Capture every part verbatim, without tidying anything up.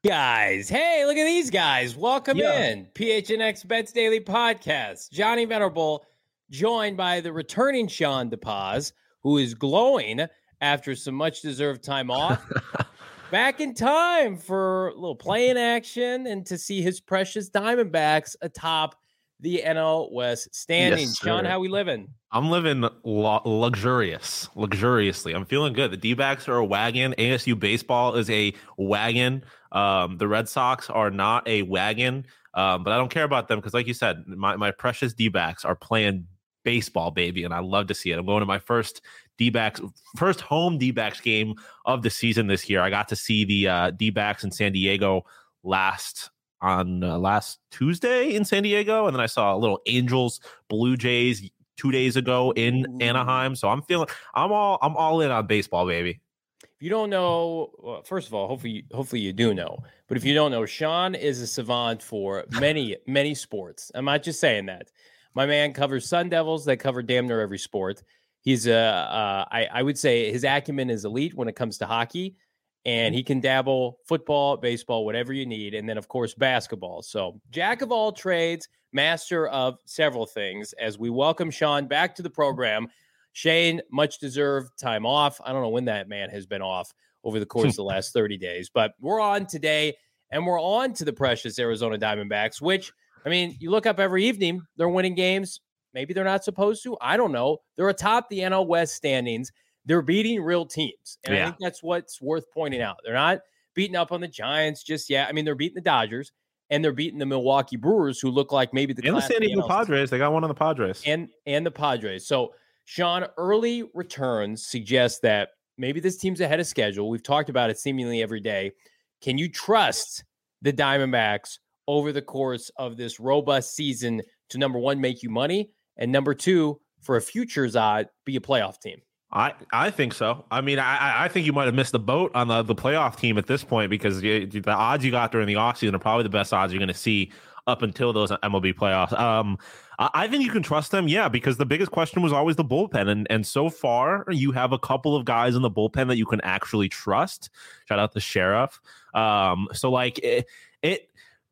Guys, hey, look at these guys. Welcome Yeah. in. P H N X Bets Daily Podcast. Johnny Venerable, joined by the returning Sean DePaz, who is glowing after some much-deserved time off. Back in time for a little playing action and to see his precious Diamondbacks atop the N L West standings. Yes, Sean, sir. how we living? I'm living lu- luxurious, luxuriously. I'm feeling good. The D-backs are a wagon. A S U baseball is a wagon. Um, the Red Sox are not a wagon, um, but I don't care about them because, like you said, my, my precious D-backs are playing baseball, baby, and I love to see it. I'm going to my first D-backs, first home D-backs game of the season this year. I got to see the uh, D-backs in San Diego last on uh, last Tuesday in San Diego, and then I saw a little Angels Blue Jays two days ago in Ooh. Anaheim. So I'm feeling I'm all I'm all in on baseball, baby. If you don't know, well, first of all, hopefully, hopefully you do know. But if you don't know, Sean is a savant for many, many sports. I'm not just saying that. My man covers Sun Devils that cover damn near every sport. He's a, uh, I, I would say his acumen is elite when it comes to hockey, and he can dabble football, baseball, whatever you need, and then of course basketball. So jack of all trades, master of several things. As we welcome Sean back to the program. Shane, much deserved time off. I don't know when that man has been off over the course of the last thirty days, but we're on today, and we're on to the precious Arizona Diamondbacks, which, I mean, you look up every evening, they're winning games. Maybe they're not supposed to. I don't know. They're atop the N L West standings. They're beating real teams, and yeah. I think that's what's worth pointing out. They're not beating up on the Giants just yet. I mean, they're beating the Dodgers, and they're beating the Milwaukee Brewers, who look like maybe the and the San Diego Padres. They got one on the Padres, and and the Padres. So, Sean, early returns suggest that maybe this team's ahead of schedule. We've talked about it seemingly every day. Can you trust the Diamondbacks over the course of this robust season to, number one, make you money, and number two, for a futures odd, be a playoff team? I, I think so. I mean, I I think you might have missed the boat on the, the playoff team at this point because you, the odds you got during the offseason are probably the best odds you're going to see up until those M L B playoffs. Um, I think you can trust them, yeah, because the biggest question was always the bullpen. And and so far, you have a couple of guys in the bullpen that you can actually trust. Shout out the Sheriff. Um, so, like, it, it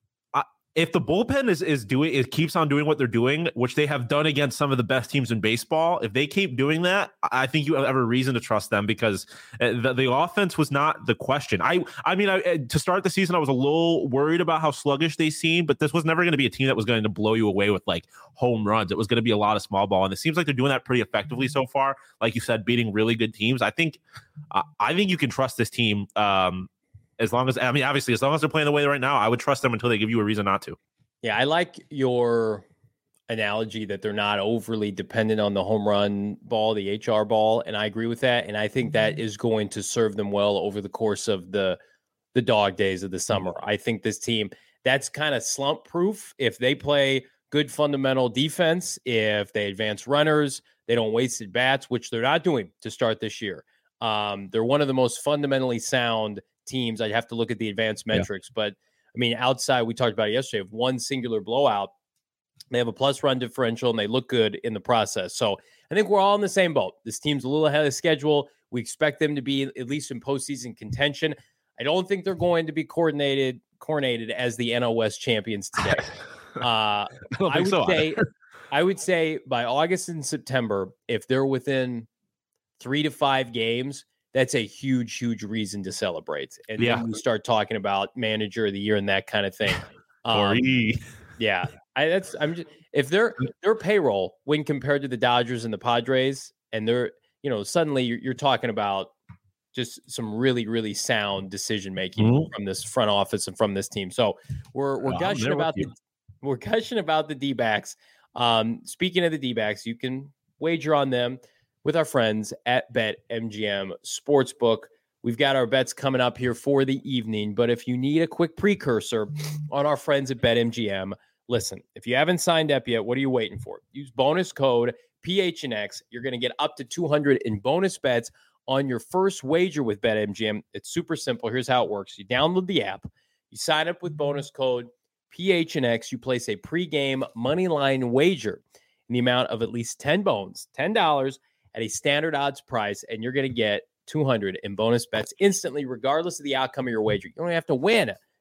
if the bullpen is is doing it keeps on doing what they're doing, which they have done against some of the best teams in baseball, if they keep doing that, I think you have a reason to trust them because the, the offense was not the question. I I mean, I, to start the season, I was a little worried about how sluggish they seemed, but this was never going to be a team that was going to blow you away with like home runs. It was going to be a lot of small ball, and it seems like they're doing that pretty effectively so far. Like you said, beating really good teams. I think uh, I think you can trust this team. Um, As long as, I mean, obviously, as long as they're playing the way right now, I would trust them until they give you a reason not to. Yeah, I like your analogy that they're not overly dependent on the home run ball, the H R ball, and I agree with that. And I think that is going to serve them well over the course of the the dog days of the summer. I think this team, that's kind of slump proof. If they play good fundamental defense, if they advance runners, they don't waste at bats, which they're not doing to start this year. Um, they're one of the most fundamentally sound teams. I'd have to look at the advanced metrics, yeah. but I mean, outside, we talked about it yesterday, of one singular blowout, they have a plus run differential and they look good in the process. So I think we're all in the same boat. This team's a little ahead of schedule. We expect them to be at least in postseason contention. I don't think they're going to be coordinated, coronated as the N L West champions today. Uh, I, I would so say, I would say by August and September, if they're within three to five games, that's a huge, huge reason to celebrate. And yeah. then we start talking about manager of the year and that kind of thing. Um, yeah, I, that's I'm just if their their payroll when compared to the Dodgers and the Padres, and they're you know suddenly you're, you're talking about just some really, really sound decision making mm-hmm. from this front office and from this team. So we're we're oh, gushing about the we're gushing about the D-backs. Um, speaking of the D-backs, you can wager on them with our friends at BetMGM Sportsbook. We've got our bets coming up here for the evening, but if you need a quick precursor on our friends at BetMGM, listen, if you haven't signed up yet, what are you waiting for? Use bonus code P H N X. You're going to get up to two hundred in bonus bets on your first wager with BetMGM. It's super simple. Here's how it works. You download the app. You sign up with bonus code P H N X. You place a pregame moneyline wager in the amount of at least ten bones, ten dollars, at a standard odds price, and you're going to get two hundred in bonus bets instantly, regardless of the outcome of your wager. You don't have to win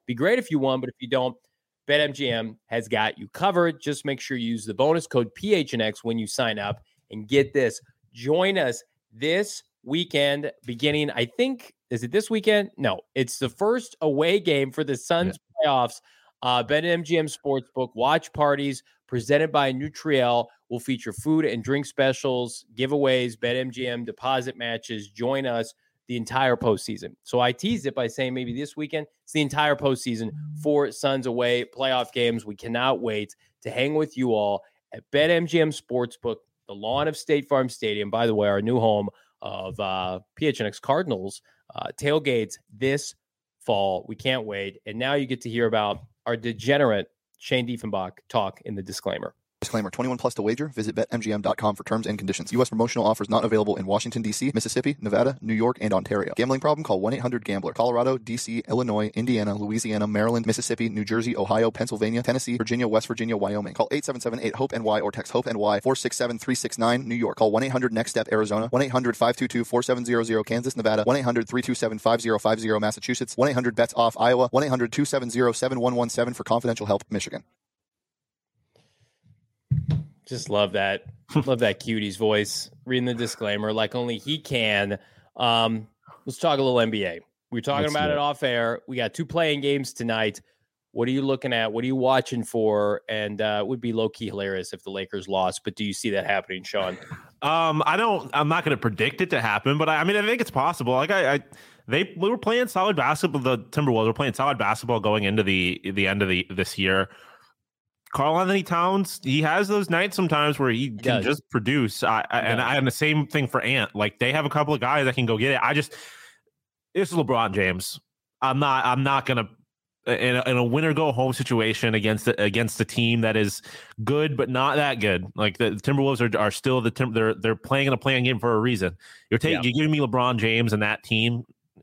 Be great if you won, but if you don't, BetMGM has got you covered. Just make sure you use the bonus code P H N X when you sign up. And get this, join us this weekend beginning, I think, is it this weekend? No, it's the first away game for the Suns yeah. playoffs. Uh, BetMGM Sportsbook watch parties presented by Nutriel will feature food and drink specials, giveaways, BetMGM deposit matches. Join us the entire postseason. So I teased it by saying maybe this weekend. It's the entire postseason for Suns away playoff games. We cannot wait to hang with you all at BetMGM Sportsbook, the lawn of State Farm Stadium. By the way, our new home of uh, P H N X Cardinals uh, tailgates this fall. We can't wait. And now you get to hear about our degenerate Shane Diefenbach talk in the disclaimer. Disclaimer, twenty-one plus to wager. Visit bet M G M dot com for terms and conditions. U S promotional offers not available in Washington, D C, Mississippi, Nevada, New York, and Ontario. Gambling problem? Call one eight hundred gambler. Colorado, D C, Illinois, Indiana, Louisiana, Maryland, Mississippi, New Jersey, Ohio, Pennsylvania, Tennessee, Virginia, West Virginia, Wyoming. Call eight seven seven eight hope N Y or text HOPE-NY four six seven three six nine, New York. Call one eight hundred next step Arizona, one eight hundred five two two four seven zero zero, Kansas, Nevada, one eight hundred three two seven five zero five zero, Massachusetts, one eight hundred bets off Iowa, one eight hundred two seven zero seven one one seven for confidential help, Michigan. Just love that. Love that cutie's voice. Reading the disclaimer like only he can. Um, let's talk a little N B A. We were talking let's about it. it off air. We got two playing games tonight. What are you looking at? What are you watching for? And uh, it would be low-key hilarious if the Lakers lost. But do you see that happening, Sean? Um, I don't. I'm not going to predict it to happen. But I, I mean, I think it's possible. Like I, I they we were playing solid basketball. The Timberwolves were playing solid basketball going into the the end of the this year. Karl-Anthony Towns, he has those nights sometimes where he can Does. just produce. I, I, and, I, and the same thing for Ant. Like they have a couple of guys that can go get it. I just, it's LeBron James. I'm not, I'm not going to, in a, in a winner go home situation against the, against a team that is good, but not that good. Like the, the Timberwolves are, are still the, Tim, they're, they're playing in a playing game for a reason. You're taking, yeah. You're giving me LeBron James and that team.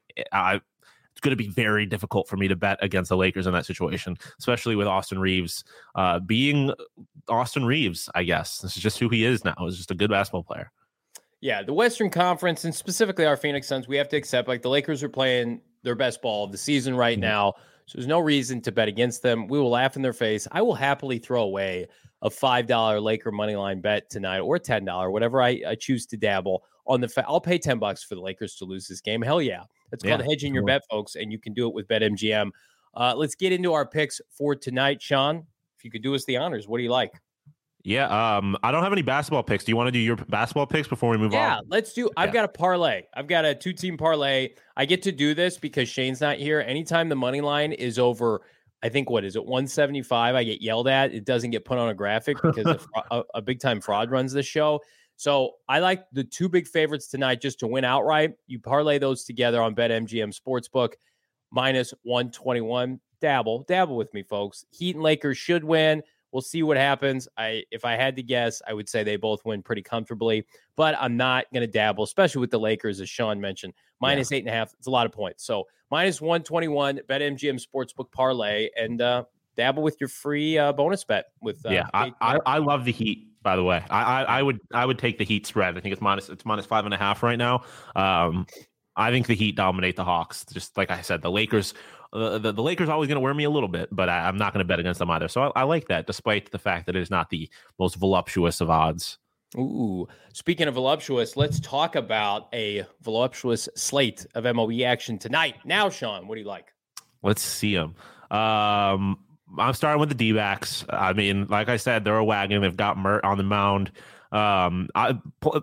I, It's going to be very difficult for me to bet against the Lakers in that situation, especially with Austin Reeves uh, being Austin Reeves, I guess. This is just who he is now. He's just a good basketball player. Yeah, the Western Conference, and specifically our Phoenix Suns, we have to accept, like, the Lakers are playing their best ball of the season right mm-hmm. now, so there's no reason to bet against them. We will laugh in their face. I will happily throw away a five dollar Laker moneyline bet tonight or ten dollars, whatever I, I choose to dabble on the fa- I'll pay ten bucks for the Lakers to lose this game. Hell yeah. It's called yeah, hedging your cool. bet, folks, and you can do it with BetMGM. Uh, let's get into our picks for tonight. Sean, if you could do us the honors, what do you like? Yeah, um, I don't have any basketball picks. Do you want to do your basketball picks before we move yeah, on? Yeah, let's do. I've yeah. got a parlay. I've got a two-team parlay. I get to do this because Shane's not here. Anytime the money line is over, I think, what is it, one seventy-five, I get yelled at. It doesn't get put on a graphic because a, a, a big-time fraud runs this show. So I like the two big favorites tonight just to win outright. You parlay those together on BetMGM Sportsbook, minus one twenty-one. Dabble. Dabble with me, folks. Heat and Lakers should win. We'll see what happens. I, if I had to guess, I would say they both win pretty comfortably, but I'm not going to dabble, especially with the Lakers, as Sean mentioned. Minus yeah. eight and a half. It's a lot of points. So minus one twenty-one, BetMGM Sportsbook parlay, and uh, dabble with your free uh, bonus bet. With uh, yeah, I, I, I love the Heat. By the way, I, I I would I would take the Heat spread. I think it's minus it's minus five and a half right now. Um, I think the Heat dominate the Hawks. Just like I said, the Lakers, uh, the the Lakers are always going to wear me a little bit, but I, I'm not going to bet against them either. So I, I like that, despite the fact that it is not the most voluptuous of odds. Ooh, speaking of voluptuous, let's talk about a voluptuous slate of M L B action tonight. Now, Sean, what do you like? Let's see them. Um. I'm starting with the D-backs. I mean, like I said, they're a wagon. They've got Mert on the mound. Um, I,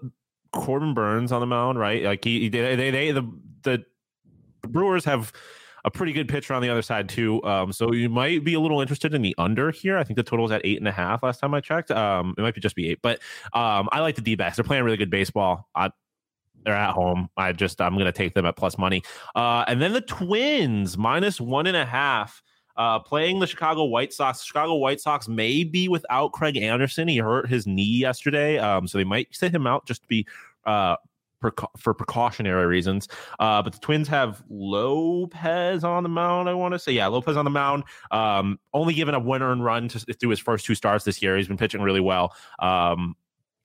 Corbin Burns on the mound, right? Like he, they, they, they, the the Brewers have a pretty good pitcher on the other side too. Um, so you might be a little interested in the under here. I think the total is at eight and a half last time I checked. Um, it might be just be eight, but um, I like the D-backs. They're playing really good baseball. I, They're at home. I just I'm going to take them at plus money. Uh, and then the Twins minus one and a half. Uh, playing the Chicago White Sox. The Chicago White Sox may be without Craig Anderson. He hurt his knee yesterday, um, so they might sit him out just to be uh, preca- for precautionary reasons. Uh, but the Twins have Lopez on the mound, I want to say. Yeah, Lopez on the mound. Um, only given a one earned run to, through his first two starts this year. He's been pitching really well. Um,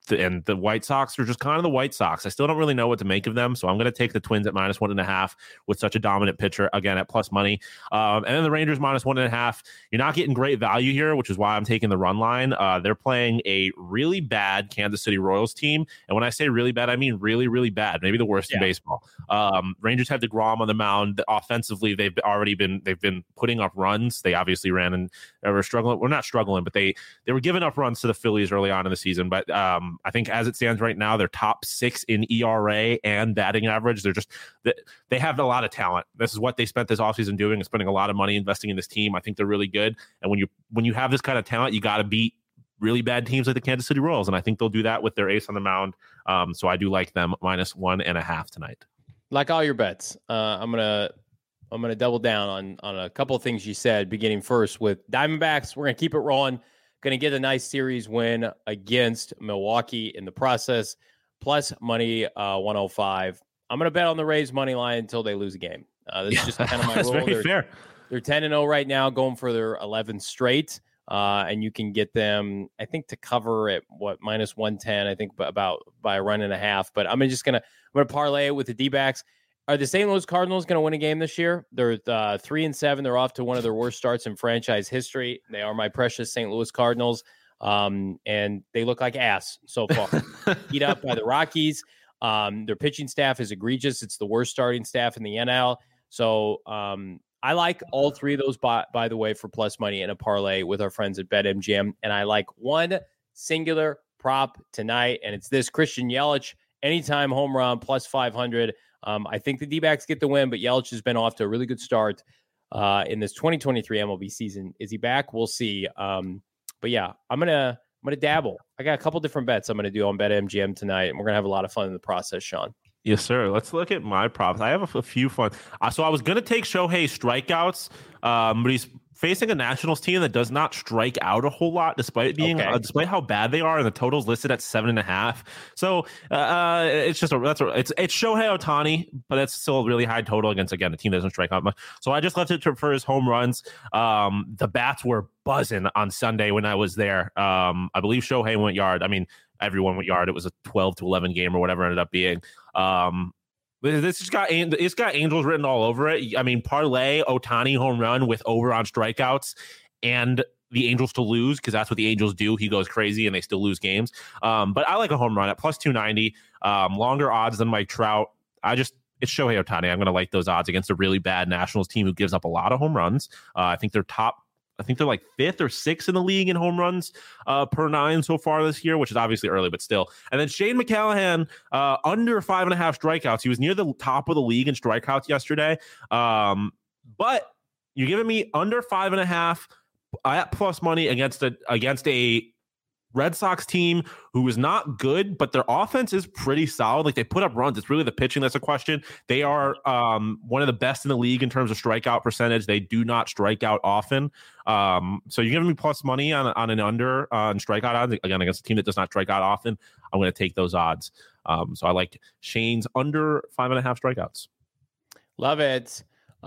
and the White Sox are just kind of the White Sox. I still don't really know what to make of them, so I'm going to take the Twins at minus one and a half with such a dominant pitcher, again, at plus money. Um, and then the Rangers minus one and a half. You're not getting great value here, which is why I'm taking the run line. Uh, they're playing a really bad Kansas City Royals team, and when I say really bad, I mean really, really bad, maybe the worst yeah. in baseball. Um, Rangers have DeGrom on the mound. Offensively, they've already been they've been putting up runs. They obviously ran and they were struggling. We're not struggling, but they they were giving up runs to the Phillies early on in the season. But um, I think as it stands right now, they're top six in E R A and batting average. They're just they have a lot of talent. This is what they spent this offseason doing and spending a lot of money investing in this team. I think they're really good. And when you when you have this kind of talent, you got to beat really bad teams like the Kansas City Royals. And I think they'll do that with their ace on the mound. Um, so I do like them minus one and a half tonight. Like all your bets, uh, I'm gonna I'm gonna double down on on a couple of things you said. Beginning first with Diamondbacks, we're gonna keep it rolling. Going to get a nice series win against Milwaukee in the process. Plus money uh, one oh five. I'm going to bet on the Rays money line until they lose a game. Uh, that's just kind of my that's rule. Very they're, fair. They're ten and oh right now, going for their eleventh straight. Uh, and you can get them, I think, to cover at what minus one ten. I think about by a run and a half. But I'm just gonna I'm gonna parlay it with the D-backs. Are the Saint Louis Cardinals going to win a game this year? They're uh, three and seven. They're off to one of their worst starts in franchise history. They are my precious Saint Louis Cardinals, um, and they look like ass so far. Beat up by the Rockies. Um, their pitching staff is egregious. It's the worst starting staff in the N L. So um, I like all three of those, by, by the way, for plus money in a parlay with our friends at BetMGM. And I like one singular prop tonight, and it's this: Christian Yelich, anytime home run, plus five hundred. Um, I think the D-backs get the win, but Yelich has been off to a really good start uh, in this twenty twenty-three M L B season. Is he back? We'll see. Um, but yeah, I'm gonna I'm gonna dabble. I got a couple different bets I'm gonna do on BetMGM tonight, and we're gonna have a lot of fun in the process, Sean. Yes, sir. Let's look at my props. I have a, a few fun. Uh, so I was gonna take Shohei strikeouts, um, but he's facing a Nationals team that does not strike out a whole lot, despite being okay. uh, despite how bad they are, and the total's listed at seven and a half. So uh, it's just a that's a, it's it's Shohei Ohtani, but it's still a really high total against again a team that doesn't strike out much. So I just left it to, for his home runs. Um, the bats were buzzing on Sunday when I was there. Um, I believe Shohei went yard. I mean, everyone went yard. It was a twelve to eleven game or whatever it ended up being. Um, This has got it's got Angels written all over it. I mean, parlay Ohtani home run with over on strikeouts and the Angels to lose, because that's what the Angels do. He goes crazy and they still lose games. Um, but I like a home run at plus two ninety. Um, longer odds than Mike Trout. I just it's Shohei Ohtani. I'm going to like those odds against a really bad Nationals team who gives up a lot of home runs. Uh, I think they're top. I think they're like fifth or sixth in the league in home runs uh, per nine so far this year, which is obviously early, but still. And then Shane McClanahan, uh, under five and a half strikeouts. He was near the top of the league in strikeouts yesterday. Um, but you're giving me under five and a half at plus money against a against a Red Sox team who is not good, but their offense is pretty solid. Like, they put up runs. It's really the pitching that's a question. They are um, one of the best in the league in terms of strikeout percentage. They do not strike out often. Um, so you're giving me plus money on, on an under uh, on strikeout odds, again, against a team that does not strike out often. I'm going to take those odds. Um, so I like Shane's under five and a half strikeouts. Love it.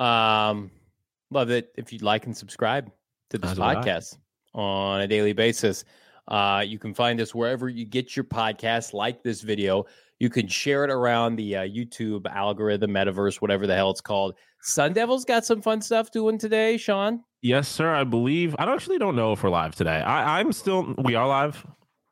Um, love it. If you'd like and subscribe to this podcast on a daily basis. Uh, you can find us wherever you get your podcasts. Like this video. You can share it around the uh, YouTube algorithm, metaverse, whatever the hell it's called. Sun Devils got some fun stuff doing today, Sean. Yes, sir. I believe. I actually don't know if we're live today. I, I'm still. We are live.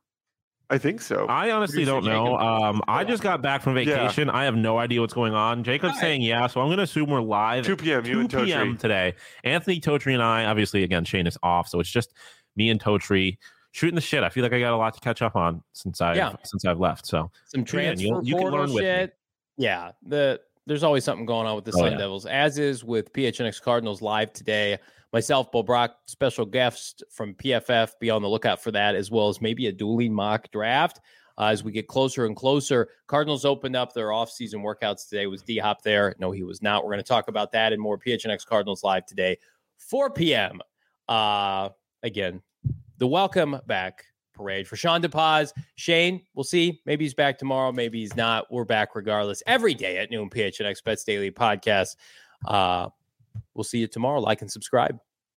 I think so. I honestly don't know. Um, I just got back from vacation. Yeah. I have no idea what's going on. Jacob's Hi. saying yeah, so I'm going to assume we're live. two p.m. You and two p.m. today. Anthony Totri and I. Obviously, again, Shane is off, so it's just me and Totri shooting the shit. I feel like I got a lot to catch up on since I yeah. since I've left. So some transfer you, you can learn with shit. Me. Yeah, the there's always something going on with the oh, Sun yeah. Devils, as is with P H N X Cardinals live today. Myself, Bo Brock, special guest from P F F. Be on the lookout for that, as well as maybe a dueling mock draft uh, as we get closer and closer. Cardinals opened up their offseason workouts today. Was D-Hop there? No, he was not. We're going to talk about that and more. P H N X Cardinals live today, four p.m. Uh, again, the welcome back parade for Sean DePaz. Shane, we'll see. Maybe he's back tomorrow. Maybe he's not. We're back regardless. Every day at noon, P H N X Bets Daily Podcast. Uh, we'll see you tomorrow. Like and subscribe.